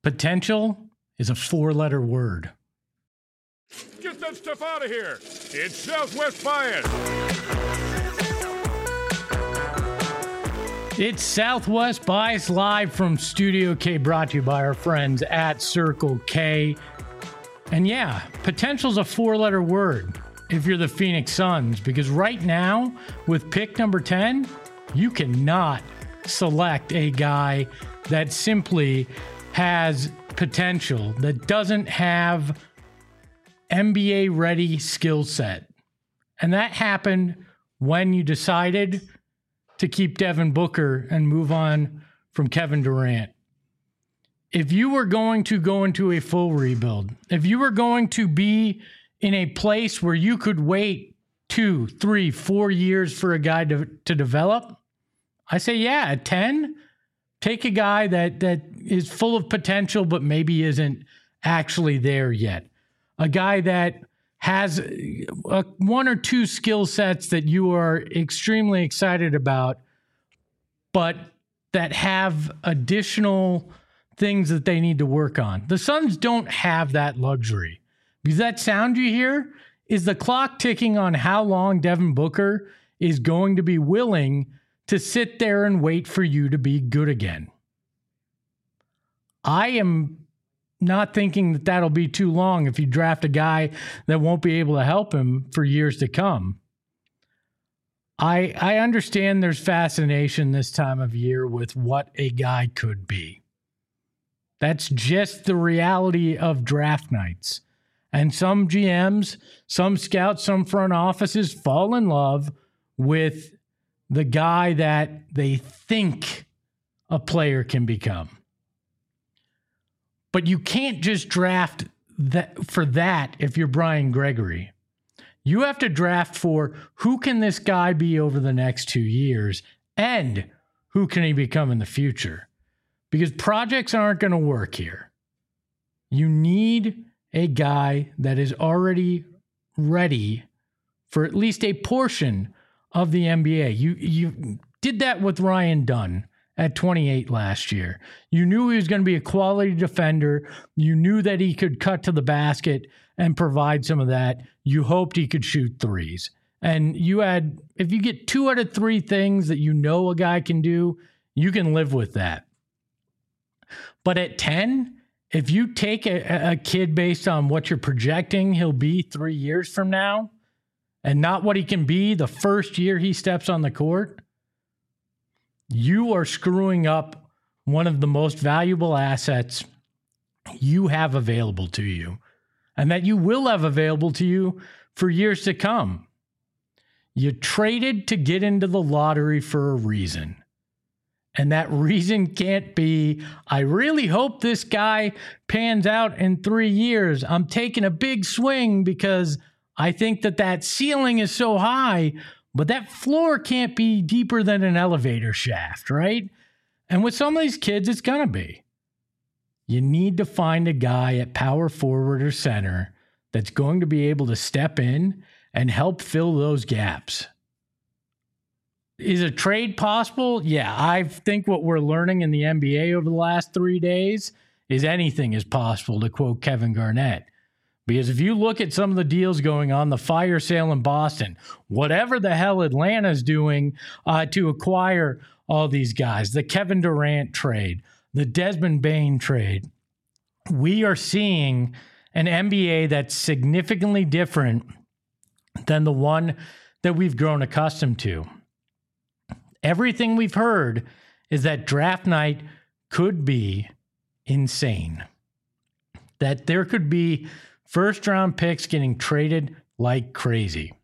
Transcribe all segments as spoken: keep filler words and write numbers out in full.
Potential is a four-letter word. Get that stuff out of here. It's Southwest Bias. It's Southwest Bias live from Studio K, brought to you by our friends at Circle K. And yeah, potential's a four-letter word if you're the Phoenix Suns, because right now, with pick number ten, you cannot select a guy that simply has potential, that doesn't have N B A-ready skill set. And that happened when you decided to keep Devin Booker and move on from Kevin Durant. If you were going to go into a full rebuild, if you were going to be in a place where you could wait two, three, four years for a guy to, to develop, I say, yeah, at ten, take a guy that that is full of potential, but maybe isn't actually there yet. A guy that has a, one or two skill sets that you are extremely excited about, but that have additional things that they need to work on. The Suns don't have that luxury. Because that sound you hear is the clock ticking on how long Devin Booker is going to be willing to sit there and wait for you to be good again. I am not thinking that that'll be too long if you draft a guy that won't be able to help him for years to come. I I understand there's fascination this time of year with what a guy could be. That's just the reality of draft nights. And some G Ms, some scouts, some front offices fall in love with the guy that they think a player can become. But you can't just draft that for that if you're Brian Gregory. You have to draft for who can this guy be over the next two years and who can he become in the future. Because projects aren't going to work here. You need a guy that is already ready for at least a portion of the N B A. You you did that with Ryan Dunn at twenty-eight last year. You knew he was going to be a quality defender. You knew that he could cut to the basket and provide some of that. You hoped he could shoot threes. And you had, if you get two out of three things that you know a guy can do, you can live with that. But at ten, if you take a, a kid based on what you're projecting he'll be three years from now and not what he can be the first year he steps on the court, you are screwing up one of the most valuable assets you have available to you and that you will have available to you for years to come. You traded to get into the lottery for a reason. And that reason can't be, I really hope this guy pans out in three years. I'm taking a big swing because I think that that ceiling is so high, but that floor can't be deeper than an elevator shaft, right? And with some of these kids, it's going to be. You need to find a guy at power forward or center that's going to be able to step in and help fill those gaps. Is a trade possible? Yeah, I think what we're learning in the N B A over the last three days is anything is possible, to quote Kevin Garnett. Because if you look at some of the deals going on, the fire sale in Boston, whatever the hell Atlanta's doing uh, to acquire all these guys, the Kevin Durant trade, the Desmond Bane trade, we are seeing an N B A that's significantly different than the one that we've grown accustomed to. Everything we've heard is that draft night could be insane. That there could be first round picks getting traded like crazy.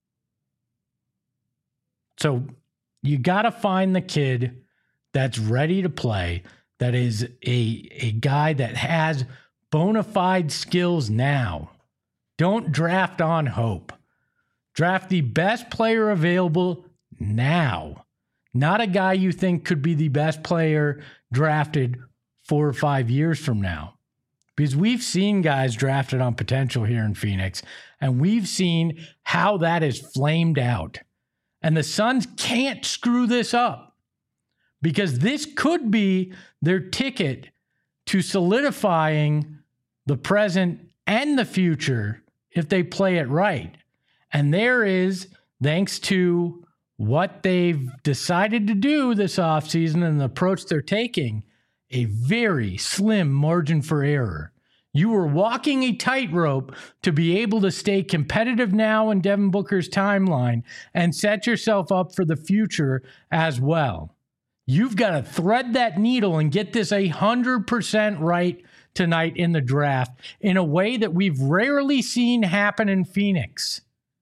So you got to find the kid that's ready to play, that is a, a guy that has bona fide skills now. Don't draft on hope. Draft the best player available now. Not a guy you think could be the best player drafted four or five years from now. Because we've seen guys drafted on potential here in Phoenix, and we've seen how that is flamed out. And the Suns can't screw this up, because this could be their ticket to solidifying the present and the future if they play it right. And there is, thanks to what they've decided to do this offseason and the approach they're taking, a very slim margin for error. You were walking a tightrope to be able to stay competitive now in Devin Booker's timeline and set yourself up for the future as well. You've got to thread that needle and get this one hundred percent right tonight in the draft in a way that we've rarely seen happen in Phoenix.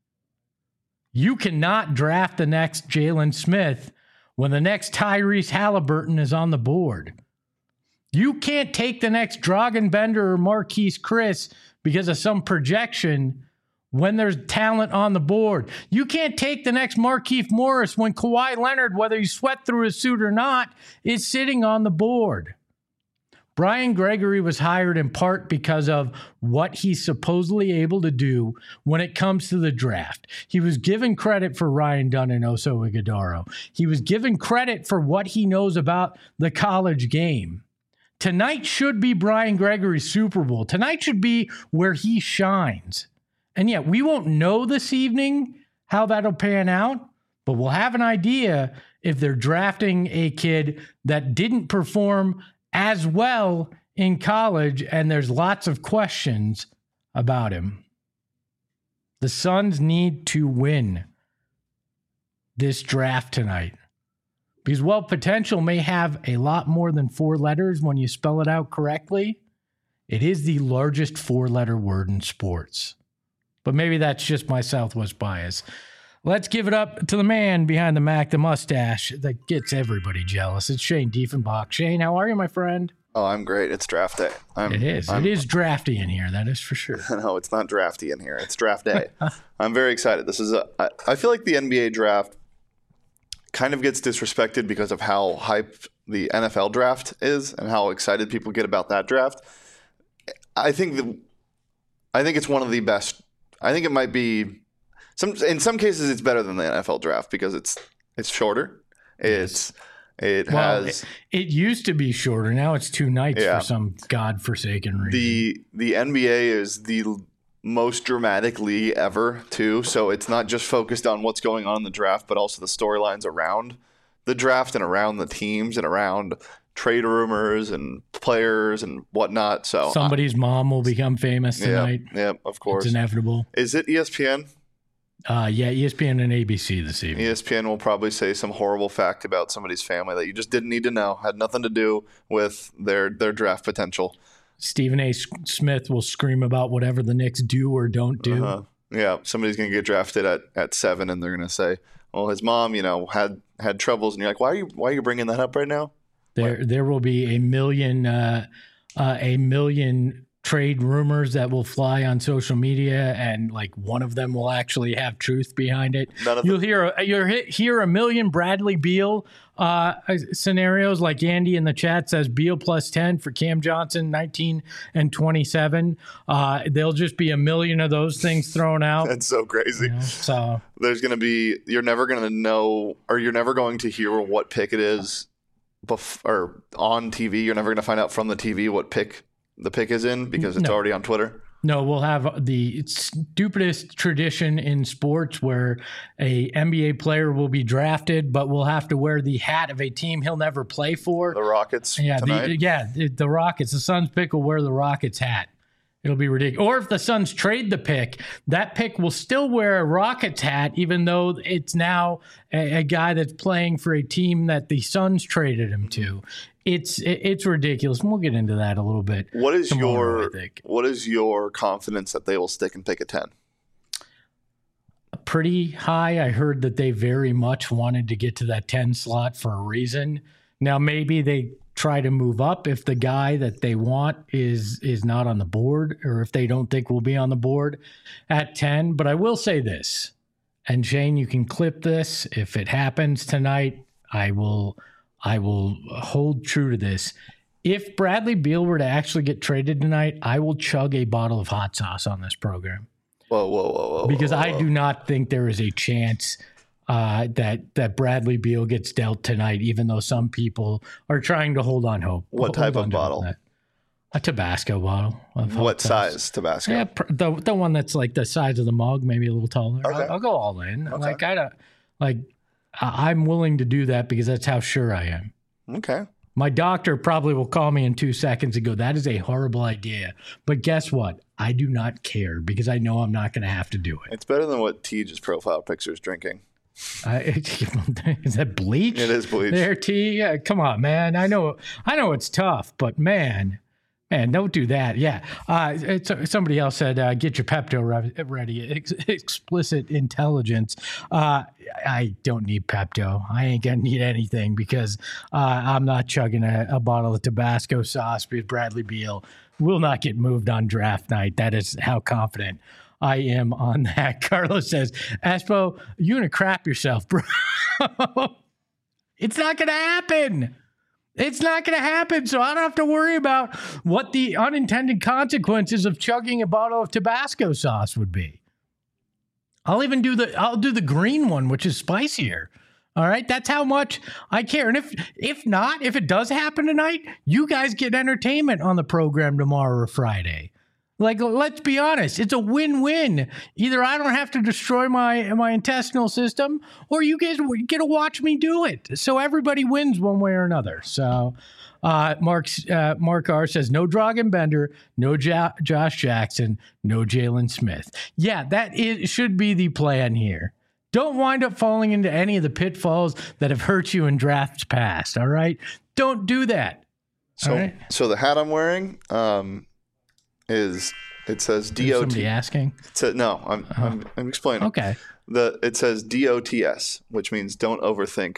You cannot draft the next Jalen Smith when the next Tyrese Halliburton is on the board. You can't take the next Dragan Bender or Marquise Chris because of some projection when there's talent on the board. You can't take the next Markieff Morris when Kawhi Leonard, whether he sweat through his suit or not, is sitting on the board. Brian Gregory was hired in part because of what he's supposedly able to do when it comes to the draft. He was given credit for Ryan Dunn and Oso Ighodaro. He was given credit for what he knows about the college game. Tonight should be Brian Gregory's Super Bowl. Tonight should be where he shines. And yet we won't know this evening how that'll pan out, but we'll have an idea if they're drafting a kid that didn't perform as well in college, and there's lots of questions about him. The Suns need to win this draft tonight. Because while potential may have a lot more than four letters when you spell it out correctly, it is the largest four-letter word in sports. But maybe that's just my Southwest bias. Let's give it up to the man behind the Mac, the mustache that gets everybody jealous. It's Shane Diefenbach. Shane, how are you, my friend? Oh, I'm great. It's draft day. I'm, it is. I'm, it is drafty in here. That is for sure. No, it's not drafty in here. It's draft day. I'm very excited. This is a. I, I feel like the N B A draft kind of gets disrespected because of how hype the N F L draft is and how excited people get about that draft. I think the, I think it's one of the best. I think it might be some. In some cases, it's better than the N F L draft because it's it's shorter. It's it well, has. It, it used to be shorter. Now it's two nights yeah. for some godforsaken reason. The the N B A is the most dramatic league ever, too. So it's not just focused on what's going on in the draft, but also the storylines around the draft and around the teams and around trade rumors and players and whatnot. So somebody's I, mom will become famous tonight. Yeah, yeah, of course. It's inevitable. Is it E S P N? Uh, yeah, E S P N and A B C this evening. E S P N will probably say some horrible fact about somebody's family that you just didn't need to know, had nothing to do with their their draft potential. Stephen A. Smith will scream about whatever the Knicks do or don't do. Uh-huh. Yeah, somebody's going to get drafted at, at seven, and they're going to say, "Well, his mom, you know, had had troubles," and you're like, "Why are you why are you bringing that up right now?" There, what? there will be a million, uh, uh, a million trade rumors that will fly on social media, and like one of them will actually have truth behind it. None of you'll them. hear a, you'll hear a million Bradley Beal uh, scenarios, like Andy in the chat says, Beal plus ten for Cam Johnson, nineteen and twenty-seven. Uh, there'll just be a million of those things thrown out. That's so crazy. You know, so there's going to be, you're never going to know, or you're never going to hear what pick it is, bef- or on T V. You're never going to find out from the T V what pick the pick is in because it's no. already on Twitter. No, we'll have the stupidest tradition in sports where a N B A player will be drafted, but will have to wear the hat of a team he'll never play for. The Rockets yeah, tonight. The, yeah, the, the Rockets. The Suns pick will wear the Rockets hat. It'll be ridiculous. Or if the Suns trade the pick, that pick will still wear a Rockets hat, even though it's now a, a guy that's playing for a team that the Suns traded him to. It's it's ridiculous, and we'll get into that a little bit. What is tomorrow, your what is your confidence that they will stick and pick a ten? Pretty high. I heard that they very much wanted to get to that ten slot for a reason. Now maybe they try to move up if the guy that they want is is not on the board, or if they don't think will be on the board at ten. But I will say this, and Shane, you can clip this if it happens tonight. I will. I will hold true to this. If Bradley Beal were to actually get traded tonight, I will chug a bottle of hot sauce on this program. Whoa, whoa, whoa, whoa! Because whoa, whoa. I do not think there is a chance uh, that that Bradley Beal gets dealt tonight, even though some people are trying to hold on hope. What hold type on of bottle? A Tabasco bottle. Of hot What sauce. size Tabasco? Yeah, pr- the the one that's like the size of the mug, maybe a little taller. Okay. I'll, I'll go all in. Okay. Like I don't like. I- I'm willing to do that because that's how sure I am. Okay. My doctor probably will call me in two seconds and go, "That is a horrible idea." But guess what? I do not care because I know I'm not going to have to do it. It's better than what Teej's profile picture is drinking. I, is that bleach? It is bleach. There, T. Yeah, come on, man. I know, I know it's tough, but man, man, don't do that. Yeah. Uh, it's, somebody else said, uh, "Get your Pepto re- ready." Ex- explicit intelligence. Uh, I don't need Pepto. I ain't gonna need anything because uh, I'm not chugging a, a bottle of Tabasco sauce because Bradley Beal will not get moved on draft night. That is how confident I am on that. Carlos says, Espo, you're going to crap yourself, bro. It's not going to happen. It's not going to happen. So I don't have to worry about what the unintended consequences of chugging a bottle of Tabasco sauce would be. I'll even do the, I'll do the green one, which is spicier. All right. That's how much I care. And if, if not, if it does happen tonight, you guys get entertainment on the program tomorrow or Friday. Like, let's be honest, it's a win-win. Either I don't have to destroy my my intestinal system, or you guys get to watch me do it. So everybody wins one way or another. So uh, Mark's, uh, Mark R says, no Dragan Bender, no ja- Josh Jackson, no Jalen Smith. Yeah, that is, should be the plan here. Don't wind up falling into any of the pitfalls that have hurt you in drafts past, all right? Don't do that. So, right. so the hat I'm wearing um, is it says D O T. Somebody asking? It says, no, I'm, Oh. I'm I'm explaining. Okay. The it says D O T S, which means don't overthink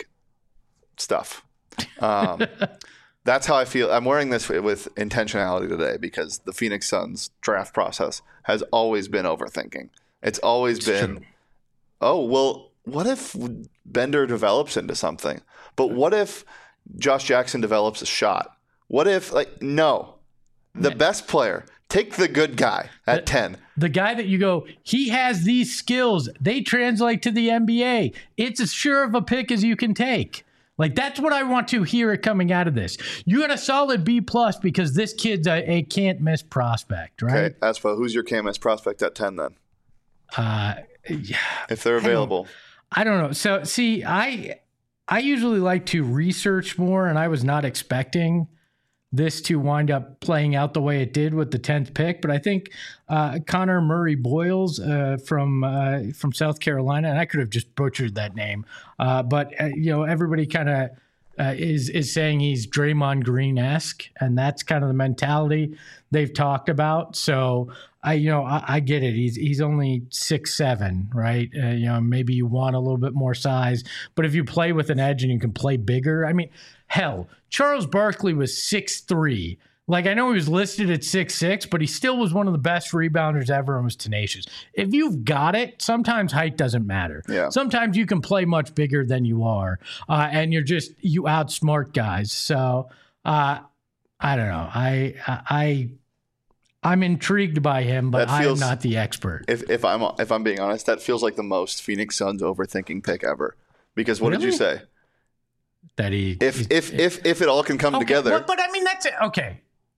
stuff. Um, that's how I feel. I'm wearing this with intentionality today because the Phoenix Suns draft process has always been overthinking. It's always It's been, true. oh well, what if Bender develops into something? But what if Josh Jackson develops a shot? What if like no, the best player. Take the good guy at The- ten. The guy that you go, he has these skills. They translate to the N B A. It's as sure of a pick as you can take. Like, that's what I want to hear it coming out of this. You got a solid B plus because this kid's a, a can't miss prospect, right? Okay, Aspo, who's your K M S prospect at ten then? Uh, yeah, If they're available. I don't know. So, see, I I usually like to research more, and I was not expecting this to wind up playing out the way it did with the tenth pick. But I think uh, Connor Murray Boyles uh, from uh, from South Carolina, and I could have just butchered that name, uh, but uh, you know, everybody kind of uh, is is saying he's Draymond Green-esque, and that's kind of the mentality they've talked about. So I, you know, I, I get it. He's he's only six seven, right? Uh, you know, maybe you want a little bit more size, but if you play with an edge and you can play bigger, I mean, hell, Charles Barkley was six three. Like, I know he was listed at six six, but he still was one of the best rebounders ever and was tenacious. If you've got it, sometimes height doesn't matter. Yeah. Sometimes you can play much bigger than you are, uh, and you're just, you outsmart guys. So, uh, I don't know. I, I, I'm intrigued by him, but That feels- I'm not the expert. If if I'm if I'm being honest, that feels like the most Phoenix Suns overthinking pick ever. Because what did you Really? say? That he, If if if if it all can come okay, together. But, but I mean, that's it. Okay.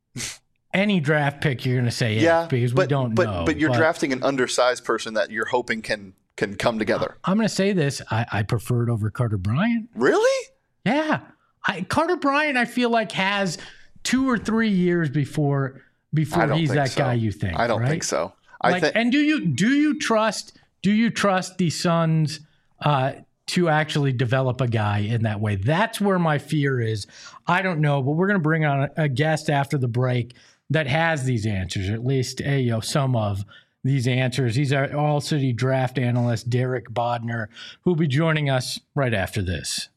Any draft pick, you're going to say yes, yeah, because but, we don't but, know. But you're drafting an undersized person that you're hoping can can come together. I'm going to say this. I, I prefer it over Carter Bryant. Really? Yeah. I, Carter Bryant, I feel like, has two or three years before before I don't he's think that so. guy you think. I don't right? think so. I Like, think and do you do you trust do you trust the Suns uh, to actually develop a guy in that way? That's where my fear is. I don't know, but we're going to bring on a, a guest after the break that has these answers, or at least uh, you know, some of these answers. He's our All City draft analyst, Derek Bodner, who'll be joining us right after this.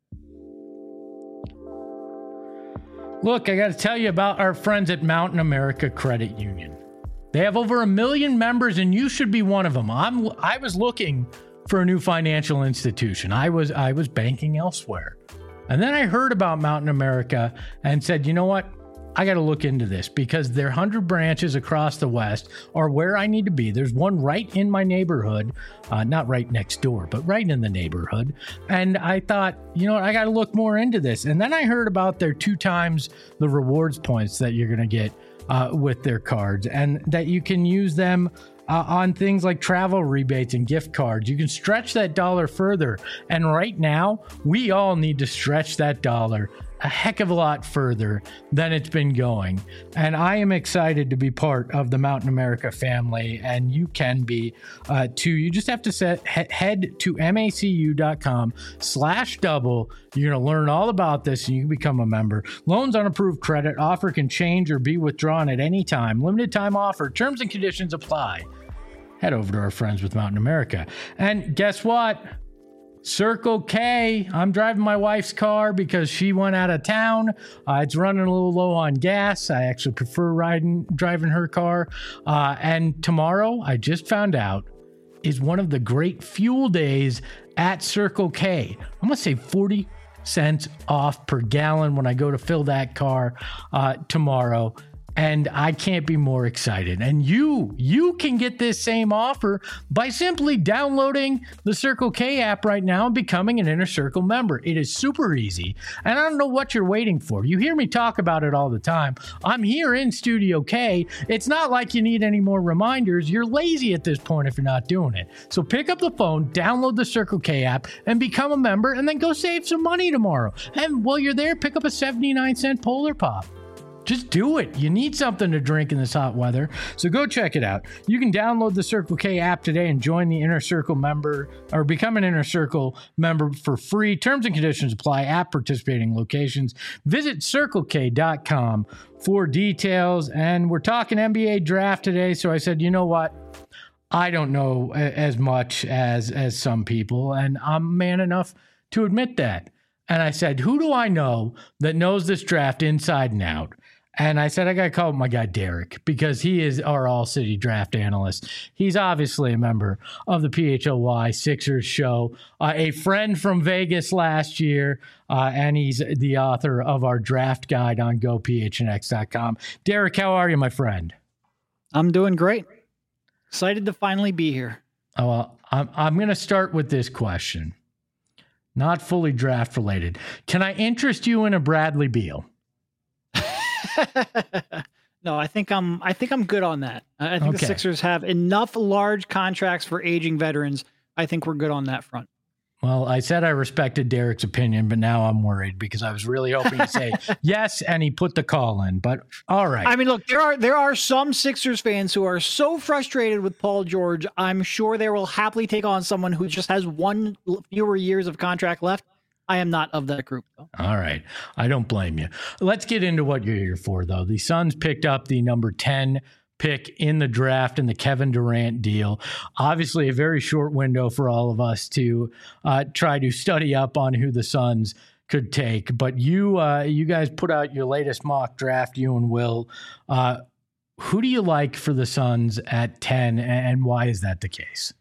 Look, I got to tell you about our friends at Mountain America Credit Union. They have over a million members, and you should be one of them. I'm I was looking for a new financial institution. I was I was banking elsewhere. And then I heard about Mountain America and said, you know what? I got to look into this because their one hundred branches across the West are where I need to be. There's one right in my neighborhood, uh, not right next door, but right in the neighborhood. And I thought, you know what, I got to look more into this. And then I heard about their two times the rewards points that you're going to get uh, with their cards, and that you can use them Uh, on things like travel rebates and gift cards. You can stretch that dollar further. And right now, we all need to stretch that dollar a heck of a lot further than it's been going. And I am excited to be part of the Mountain America family, and you can be uh, too. You just have to set, he- head to macu.com slash double. You're going to learn all about this and you can become a member. Loans on approved credit. Offer can change or be withdrawn at any time. Limited time offer. Terms and conditions apply. Head over to our friends with Mountain America. And guess what? Circle K. I'm driving my wife's car because she went out of town. Uh, it's running a little low on gas. I actually prefer riding, driving her car. Uh, and tomorrow, I just found out, is one of the great fuel days at Circle K. I'm going to save forty cents off per gallon when I go to fill that car uh, tomorrow. And I can't be more excited. And you, you can get this same offer by simply downloading the Circle K app right now and becoming an Inner Circle member. It is super easy. And I don't know what you're waiting for. You hear me talk about it all the time. I'm here in Studio K. It's not like you need any more reminders. You're lazy at this point if you're not doing it. So pick up the phone, download the Circle K app, and become a member, and then go save some money tomorrow. And while you're there, pick up a seventy-nine cent Polar Pop. Just do it. You need something to drink in this hot weather. So go check it out. You can download the Circle K app today and join the Inner Circle member or become an Inner Circle member for free. Terms and conditions apply at participating locations. Visit circle k dot com for details. And we're talking N B A draft today. So I said, you know what? I don't know as much as, as some people, and I'm man enough to admit that. And I said, who do I know that knows this draft inside and out? And I said, I got to call my guy Derek because he is our all-city draft analyst. He's obviously a member of the P H L Y Sixers show, uh, a friend from Vegas last year, uh, and he's the author of our draft guide on go p h n x dot com. Derek, how are you, my friend? I'm doing great. Excited to finally be here. Oh, well, I'm, I'm going to start with this question. Not fully draft related. Can I interest you in a Bradley Beal? No, I think I'm. I think I'm good on that. I think Okay. the Sixers have enough large contracts for aging veterans. I think we're good on that front. Well, I said I respected Derek's opinion, but now I'm worried because I was really hoping to say yes, and he put the call in. But all right. I mean, look, there are there are some Sixers fans who are so frustrated with Paul George. I'm sure they will happily take on someone who just has one fewer years of contract left. I am not of that group, though. All right. I don't blame you. Let's get into what you're here for, though. The Suns picked up the number ten pick in the draft in the Kevin Durant deal. Obviously, a very short window for all of us to uh, try to study up on who the Suns could take. But you uh, you guys put out your latest mock draft, you and Will. Uh, who do you like for the Suns at ten, and why is that the case?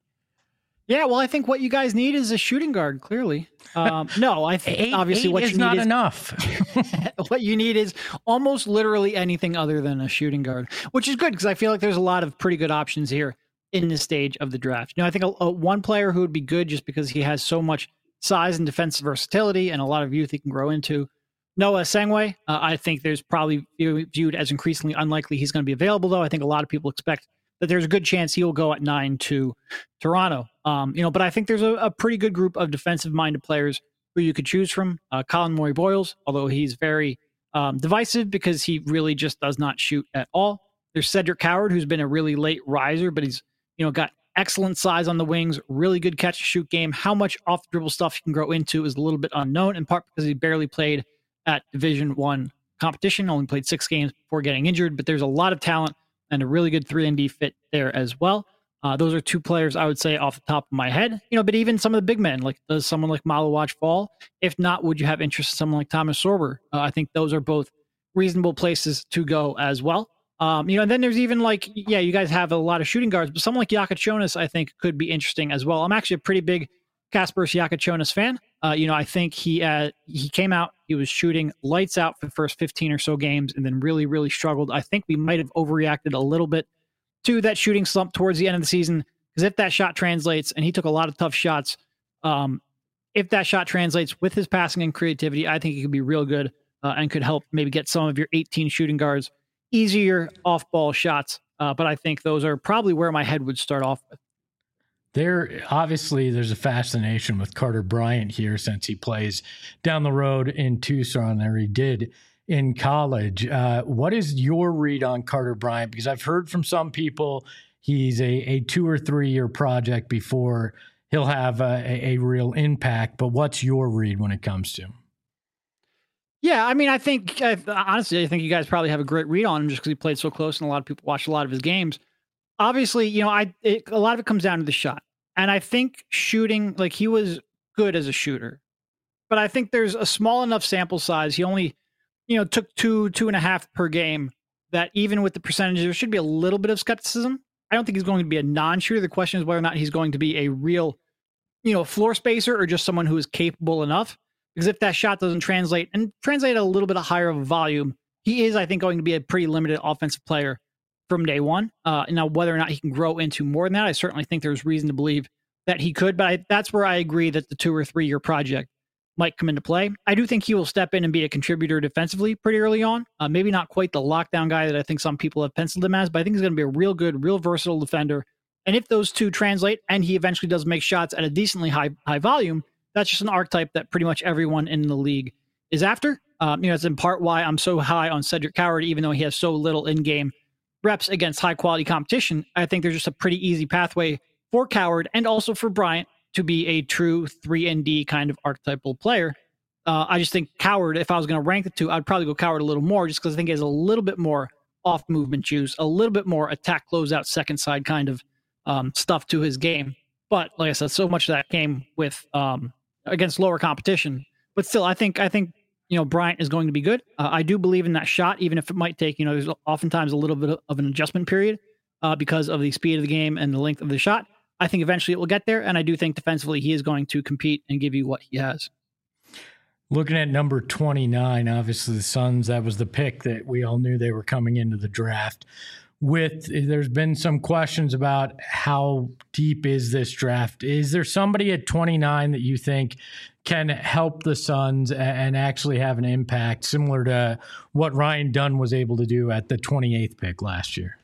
Yeah, well, I think what you guys need is a shooting guard, clearly. Um, no, I think Eight, obviously eight what is you need not is enough. what you need is almost literally anything other than a shooting guard, which is good because I feel like there's a lot of pretty good options here in this stage of the draft. You know, I think a, a one player who would be good just because he has so much size and defensive versatility and a lot of youth he can grow into. Noah Sengwe, uh, I think there's probably viewed as increasingly unlikely he's going to be available, though. I think a lot of people expect that there's a good chance he'll go at nine to Toronto. Um, you know, but I think there's a, a pretty good group of defensive-minded players who you could choose from. Uh, Colin Morey-Boyles, although he's very um, divisive because he really just does not shoot at all. There's Cedric Howard, who's been a really late riser, but he's you know got excellent size on the wings, really good catch-and-shoot game. How much off-the-dribble stuff he can grow into is a little bit unknown, in part because he barely played at Division One competition, only played six games before getting injured, but there's a lot of talent and a really good three and D fit there as well. Uh, those are two players I would say off the top of my head. You know, but even some of the big men, like does someone like Malawach fall? If not, would you have interest in someone like Thomas Sorber? Uh, I think those are both reasonable places to go as well. Um, you know, and then there's even like, yeah, you guys have a lot of shooting guards, but someone like Jakob Jonas, I think, could be interesting as well. I'm actually a pretty big Kasper Siakachonis fan. Uh, you know, I think he uh, he came out, he was shooting lights out for the first fifteen or so games and then really, really struggled. I think we might have overreacted a little bit to that shooting slump towards the end of the season, because if that shot translates, and he took a lot of tough shots, um, if that shot translates with his passing and creativity, I think he could be real good uh, and could help maybe get some of your eighteen shooting guards easier off-ball shots. Uh, but I think those are probably where my head would start off with. There, obviously, there's a fascination with Carter Bryant here since he plays down the road in Tucson, or he did in college. Uh, what is your read on Carter Bryant? Because I've heard from some people he's a, a two or three year project before he'll have a, a, a real impact. But what's your read when it comes to him? Yeah, I mean, I think, I, honestly, I think you guys probably have a great read on him just because he played so close and a lot of people watched a lot of his games. Obviously, you know, I it, a lot of it comes down to the shot. And I think shooting, like he was good as a shooter. But I think there's a small enough sample size. He only, you know, took two, two and a half per game, that even with the percentages, there should be a little bit of skepticism. I don't think he's going to be a non-shooter. The question is whether or not he's going to be a real, you know, floor spacer or just someone who is capable enough. Because if that shot doesn't translate and translate at a little bit higher of a volume, he is, I think, going to be a pretty limited offensive player from day one. Uh, now, whether or not he can grow into more than that, I certainly think there's reason to believe that he could. But I, that's where I agree that the two or three year project might come into play. I do think he will step in and be a contributor defensively pretty early on. Uh, maybe not quite the lockdown guy that I think some people have penciled him as, but I think he's going to be a real good, real versatile defender. And if those two translate and he eventually does make shots at a decently high high volume, that's just an archetype that pretty much everyone in the league is after. Um, you know, it's in part why I'm so high on Cedric Coward, even though he has so little in-game reps against high-quality competition. I think there's just a pretty easy pathway for Coward and also for Bryant to be a true three and D kind of archetypal player. Uh, I just think Coward, if I was going to rank the two, I'd probably go Coward a little more just because I think he has a little bit more off-movement juice, a little bit more attack closeout second side kind of um, stuff to his game. But like I said, so much of that came with um, against lower competition. But still, I think I think you know Bryant is going to be good. Uh, I do believe in that shot, even if it might take you know there's oftentimes a little bit of an adjustment period uh, because of the speed of the game and the length of the shot. I think eventually it will get there, and I do think defensively he is going to compete and give you what he has. Looking at number twenty-nine, obviously the Suns, that was the pick that we all knew they were coming into the draft with. There's been some questions about how deep is this draft. Is there somebody at twenty-nine that you think can help the Suns and actually have an impact similar to what Ryan Dunn was able to do at the twenty-eighth pick last year?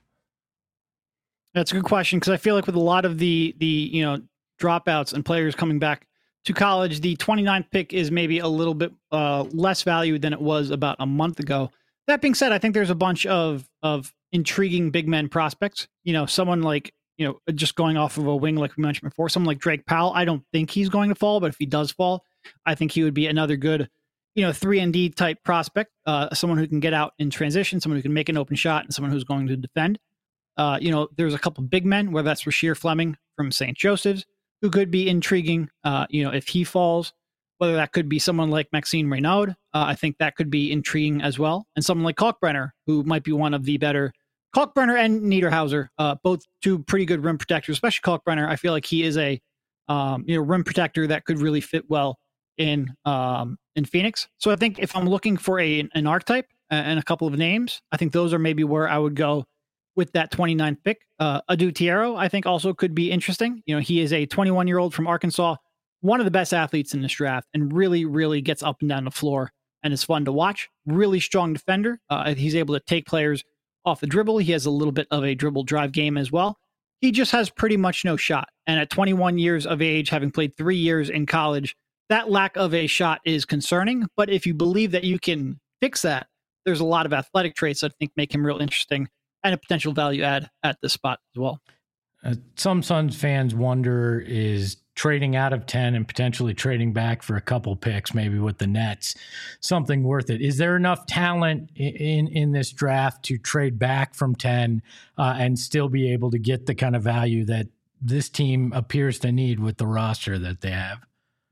That's a good question, because I feel like with a lot of the the you know dropouts and players coming back to college, the twenty-ninth pick is maybe a little bit uh, less valued than it was about a month ago. That being said, I think there's a bunch of of intriguing big men prospects. You know, someone like, you know, just going off of a wing, like we mentioned before, someone like Drake Powell. I don't think he's going to fall, but if he does fall, I think he would be another good, you know, three and D type prospect. Uh, someone who can get out in transition, someone who can make an open shot, and someone who's going to defend. Uh, you know, there's a couple big men, whether that's Rasheer Fleming from Saint Joseph's, who could be intriguing. Uh, you know, if he falls, whether that could be someone like Maxime Reynaud, uh, I think that could be intriguing as well. And someone like Kalkbrenner, who might be one of the better. Kalkbrenner and Niederhauser, uh, both two pretty good rim protectors, especially Kalkbrenner. I feel like he is a um, you know rim protector that could really fit well in um, in Phoenix. So I think if I'm looking for a an archetype and a couple of names, I think those are maybe where I would go with that twenty-ninth pick. Uh, Adu Tiero, I think, also could be interesting. You know, he is a twenty-one-year-old from Arkansas, one of the best athletes in this draft, and really, really gets up and down the floor and is fun to watch. Really strong defender. Uh, he's able to take players off the dribble. He has a little bit of a dribble drive game as well. He just has pretty much no shot. And at twenty-one years of age, having played three years in college, that lack of a shot is concerning. But if you believe that you can fix that, there's a lot of athletic traits that I think make him real interesting and a potential value add at this spot as well. Uh, some Suns fans wonder, is trading out of ten and potentially trading back for a couple picks, maybe with the Nets, something worth it? Is there enough talent in in, in this draft to trade back from ten uh, and still be able to get the kind of value that this team appears to need with the roster that they have?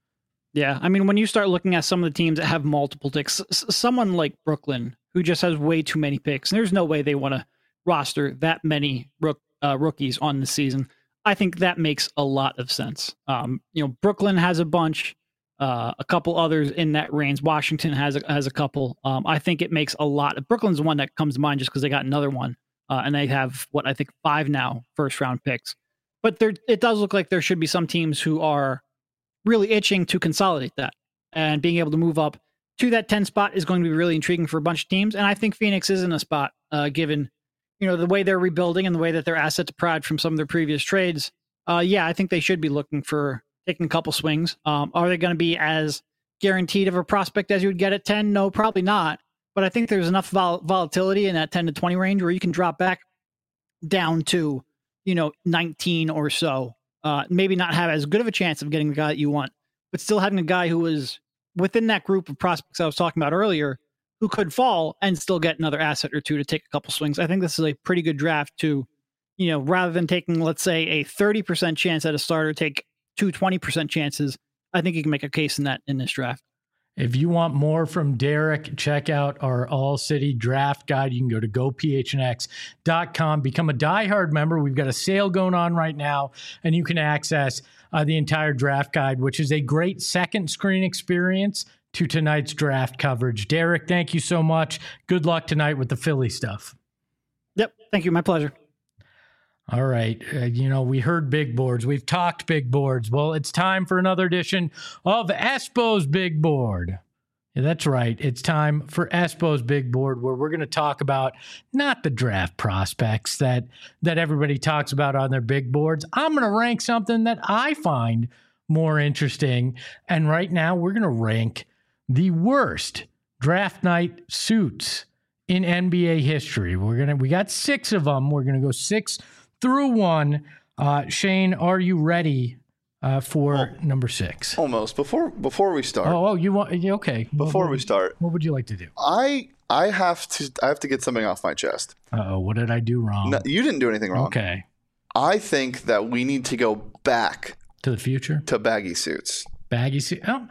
Yeah, I mean, when you start looking at some of the teams that have multiple picks, s- someone like Brooklyn, who just has way too many picks, and there's no way they want to roster that many rook, uh, rookies on the season. I think that makes a lot of sense. Um, you know, Brooklyn has a bunch, uh, a couple others in that range. Washington has a, has a couple. Um, I think it makes a lot. Brooklyn's the one that comes to mind just because they got another one, uh, and they have what I think five now first round picks. But there, it does look like there should be some teams who are really itching to consolidate that, and being able to move up to that ten spot is going to be really intriguing for a bunch of teams. And I think Phoenix is in a spot, uh, given, you know, the way they're rebuilding and the way that their asset deprived from some of their previous trades. Uh, yeah, I think they should be looking for taking a couple swings. Um, are they going to be as guaranteed of a prospect as you would get at ten? No, probably not. But I think there's enough vol- volatility in that ten to twenty range where you can drop back down to, you know, nineteen or so. Uh, maybe not have as good of a chance of getting the guy that you want, but still having a guy who was within that group of prospects I was talking about earlier, who could fall and still get another asset or two to take a couple swings. I think this is a pretty good draft to, you know, rather than taking, let's say, a thirty percent chance at a starter, take two twenty percent chances. I think you can make a case in that in this draft. If you want more from Derek, check out our all-city draft guide. You can go to go p h n x dot com, become a diehard member. We've got a sale going on right now, and you can access uh, the entire draft guide, which is a great second screen experience to tonight's draft coverage. Derek, thank you so much. Good luck tonight with the Philly stuff. Yep. Thank you. My pleasure. All right. Uh, you know, we heard big boards. We've talked big boards. Well, it's time for another edition of Espo's Big Board. Yeah, that's right. It's time for Espo's Big Board, where we're going to talk about not the draft prospects that, that everybody talks about on their big boards. I'm going to rank something that I find more interesting. And right now, we're going to rank the worst draft night suits in N B A history. We're going to, we got six of them. We're going to go six through one. Uh, Shane, are you ready uh, for oh, number six? Almost. Before before we start. Oh, oh you want? Okay. Before what, we start, what would you like to do? I I have to I have to get something off my chest. Uh-oh, what did I do wrong? No, you didn't do anything wrong. Okay. I think that we need to go back to the future to baggy suits. Baggy suit. Oh,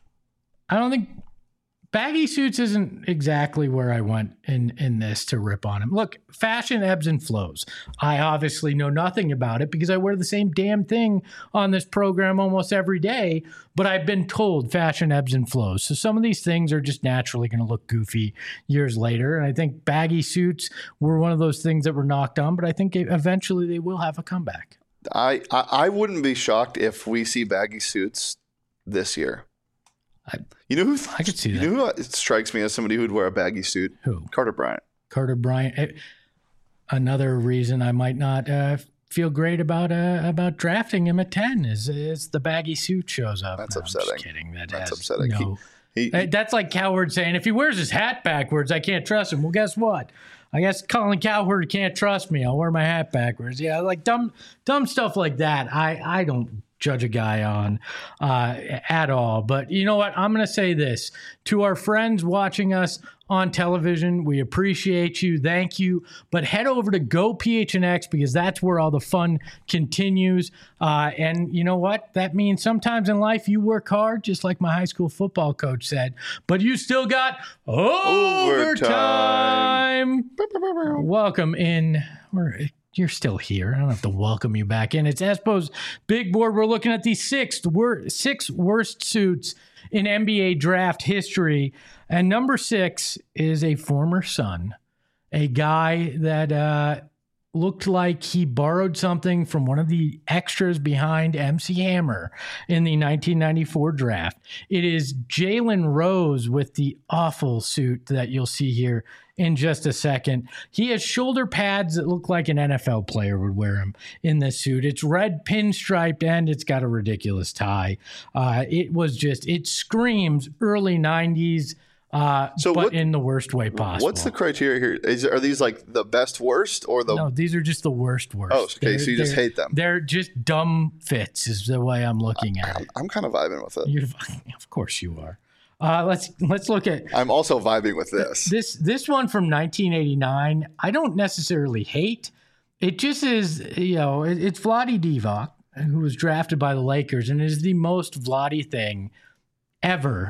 I don't think. Baggy suits isn't exactly where I went in, in this to rip on him. Look, fashion ebbs and flows. I obviously know nothing about it because I wear the same damn thing on this program almost every day, but I've been told fashion ebbs and flows. So some of these things are just naturally going to look goofy years later. And I think baggy suits were one of those things that were knocked on, but I think eventually they will have a comeback. I, I, I wouldn't be shocked if we see baggy suits this year. I, you know who I could see you that. know who it strikes me as somebody who'd wear a baggy suit? Who? Carter Bryant. Carter Bryant. It, another reason I might not uh, feel great about uh, about drafting him at ten is is the baggy suit shows up. That's no, upsetting. I'm just kidding. That That's has upsetting. No, he, he, that's like Cowherd saying if he wears his hat backwards, I can't trust him. Well, guess what? I guess Colin Cowherd can't trust me. I'll wear my hat backwards. Yeah, like dumb dumb stuff like that. I I don't judge a guy on uh, at all. But you know what? I'm going to say this to our friends watching us on television. We appreciate you. Thank you. But head over to Go P H N X because that's where all the fun continues. Uh, and you know what? That means sometimes in life you work hard, just like my high school football coach said, but you still got overtime. overtime. Welcome in. We're You're still here. I don't have to welcome you back in. It's Espo's Big Board. We're looking at the sixth wor- six worst suits in N B A draft history. And number six is a former Sun, a guy that uh, looked like he borrowed something from one of the extras behind M C Hammer in the nineteen ninety-four draft. It is Jalen Rose with the awful suit that you'll see here in just a second. He has shoulder pads that look like an N F L player would wear them in this suit. It's red pinstriped and it's got a ridiculous tie. Uh, it was just, it screams early nineties, uh, so but what, in the worst way possible. What's the criteria here? Is, are these like the best worst or the... No, these are just the worst worst. Oh, okay, they're, so you just hate them. They're just dumb fits is the way I'm looking at I, it. I'm kind of vibing with it. You're, of course you are. Uh, let's let's look at. I'm also vibing with this. This this one from nineteen eighty-nine. I don't necessarily hate. It just is, you know, it, it's Vlade Divac, who was drafted by the Lakers, and is the most Vlade thing ever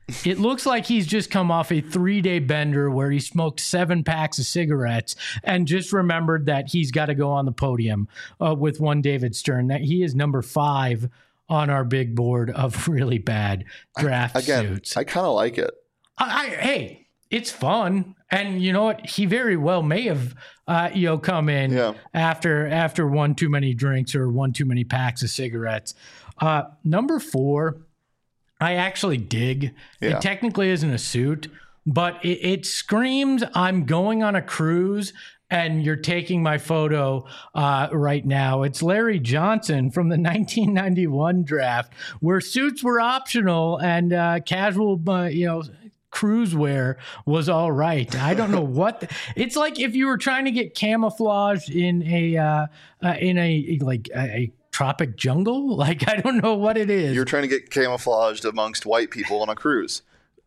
It looks like he's just come off a three-day bender where he smoked seven packs of cigarettes and just remembered that he's got to go on the podium uh, with one David Stern. That he is number five on our big board of really bad draft I, again, suits. I kind of like it. I, I, hey, it's fun, and you know what? He very well may have, uh, you know, come in Yeah. after after one too many drinks or one too many packs of cigarettes. Uh, number four. I actually dig. Yeah. It technically isn't a suit, but it, it screams, I'm going on a cruise and you're taking my photo uh, right now. It's Larry Johnson from the nineteen ninety-one draft where suits were optional and uh, casual, uh, you know, cruise wear was all right. I don't know what the, it's like if you were trying to get camouflage in a uh, uh, in a like a, a tropic jungle. Like, I don't know what it is. You're trying to get camouflaged amongst white people on a cruise.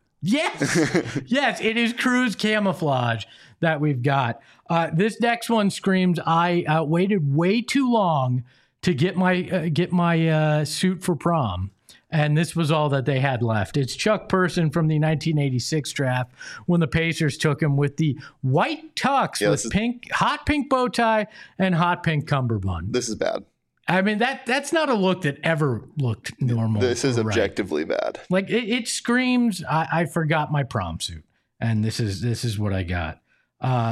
Yes. Yes, it is cruise camouflage that we've got. Uh, this next one screams, I uh, waited way too long to get my uh, get my uh, suit for prom. And this was all that they had left. It's Chuck Person from the nineteen eighty-six draft when the Pacers took him with the white tux Yeah, with is- pink, hot pink bow tie and hot pink cummerbund. This is bad. I mean, that that's not a look that ever looked normal. This is or right. objectively bad. Like it, it screams, I, I forgot my prom suit, and this is this is what I got. Uh,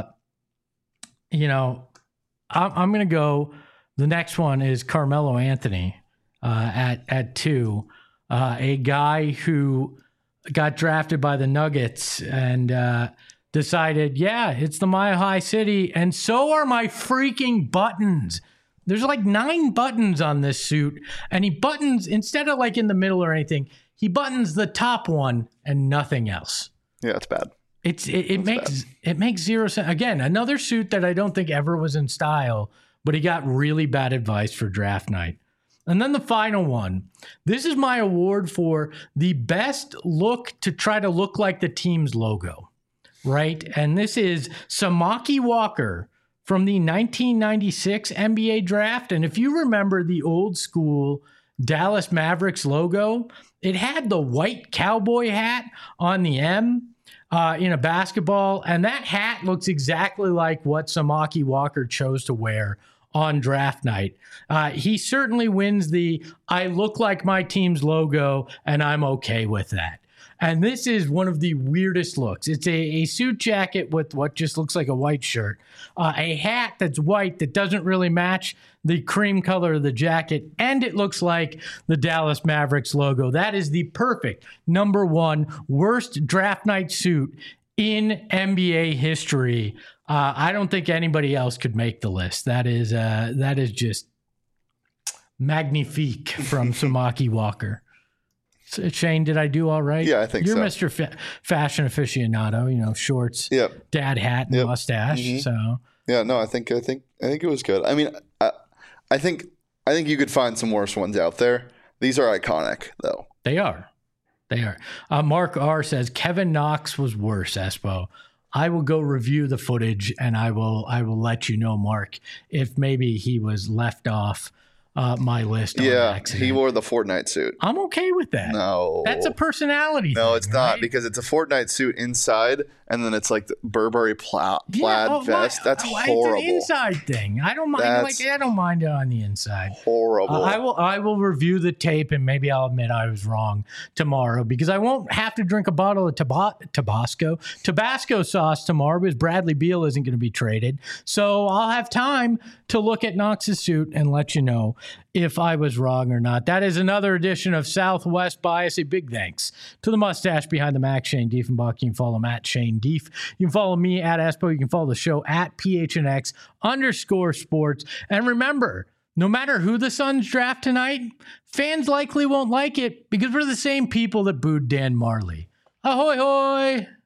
you know, I'm, I'm gonna go. The next one is Carmelo Anthony uh, at at two, uh, a guy who got drafted by the Nuggets and uh, decided, yeah, it's the Mile High City, and so are my freaking buttons. There's like nine buttons on this suit, and he buttons, instead of like in the middle or anything, he buttons the top one and nothing else. Yeah, it's bad. It's it, it makes it makes zero sense. Again, another suit that I don't think ever was in style, but he got really bad advice for draft night. And then the final one. This is my award for the best look to try to look like the team's logo, right? And this is Samaki Walker from the nineteen ninety-six N B A draft. And if you remember the old school Dallas Mavericks logo, it had the white cowboy hat on the M uh, in a basketball. And that hat looks exactly like what Samaki Walker chose to wear on draft night. Uh, he certainly wins the I look like my team's logo and I'm okay with that. And this is one of the weirdest looks. It's a, a suit jacket with what just looks like a white shirt, uh, a hat that's white that doesn't really match the cream color of the jacket, and it looks like the Dallas Mavericks logo. That is the perfect number one worst draft night suit in N B A history. Uh, I don't think anybody else could make the list. That is uh, that is just magnifique from Samaki Walker. So, Shane, did I do all right? Yeah, I think You're so. Mister Fa- fashion aficionado, you know, shorts, Yep. dad hat, and Yep. mustache. Mhm. So Yeah, no, I think I think I think it was good. I mean, I, I think I think you could find some worse ones out there. These are iconic, though. they are. They are. Uh, Mark R says Kevin Knox was worse, Espo. I will go review the footage and I will I will let you know, Mark, if maybe he was left off uh, my list on Yeah, accident. he wore the Fortnite suit. I'm okay with that. No, That's a personality No, thing, it's not right? because it's a Fortnite suit inside, and then it's like the Burberry pla- Yeah, plaid oh, vest. my- That's oh, horrible. It's an inside thing. I don't mind. That's like I don't mind it on the inside. Horrible. Uh, I will. I will review the tape, and maybe I'll admit I was wrong tomorrow because I won't have to drink a bottle of taba- Tabasco Tabasco sauce tomorrow because Bradley Beal isn't going to be traded. So I'll have time to look at Knox's suit and let you know if I was wrong or not. That is another edition of Southwest Bias. A big thanks to the mustache behind the Mac, Shane Diefenbach. You can follow him at Shane Dief. You can follow me at Espo. You can follow the show at P H N X underscore sports. And remember, no matter who the Suns draft tonight, fans likely won't like it because we're the same people that booed Dan Marley. Ahoy, hoy!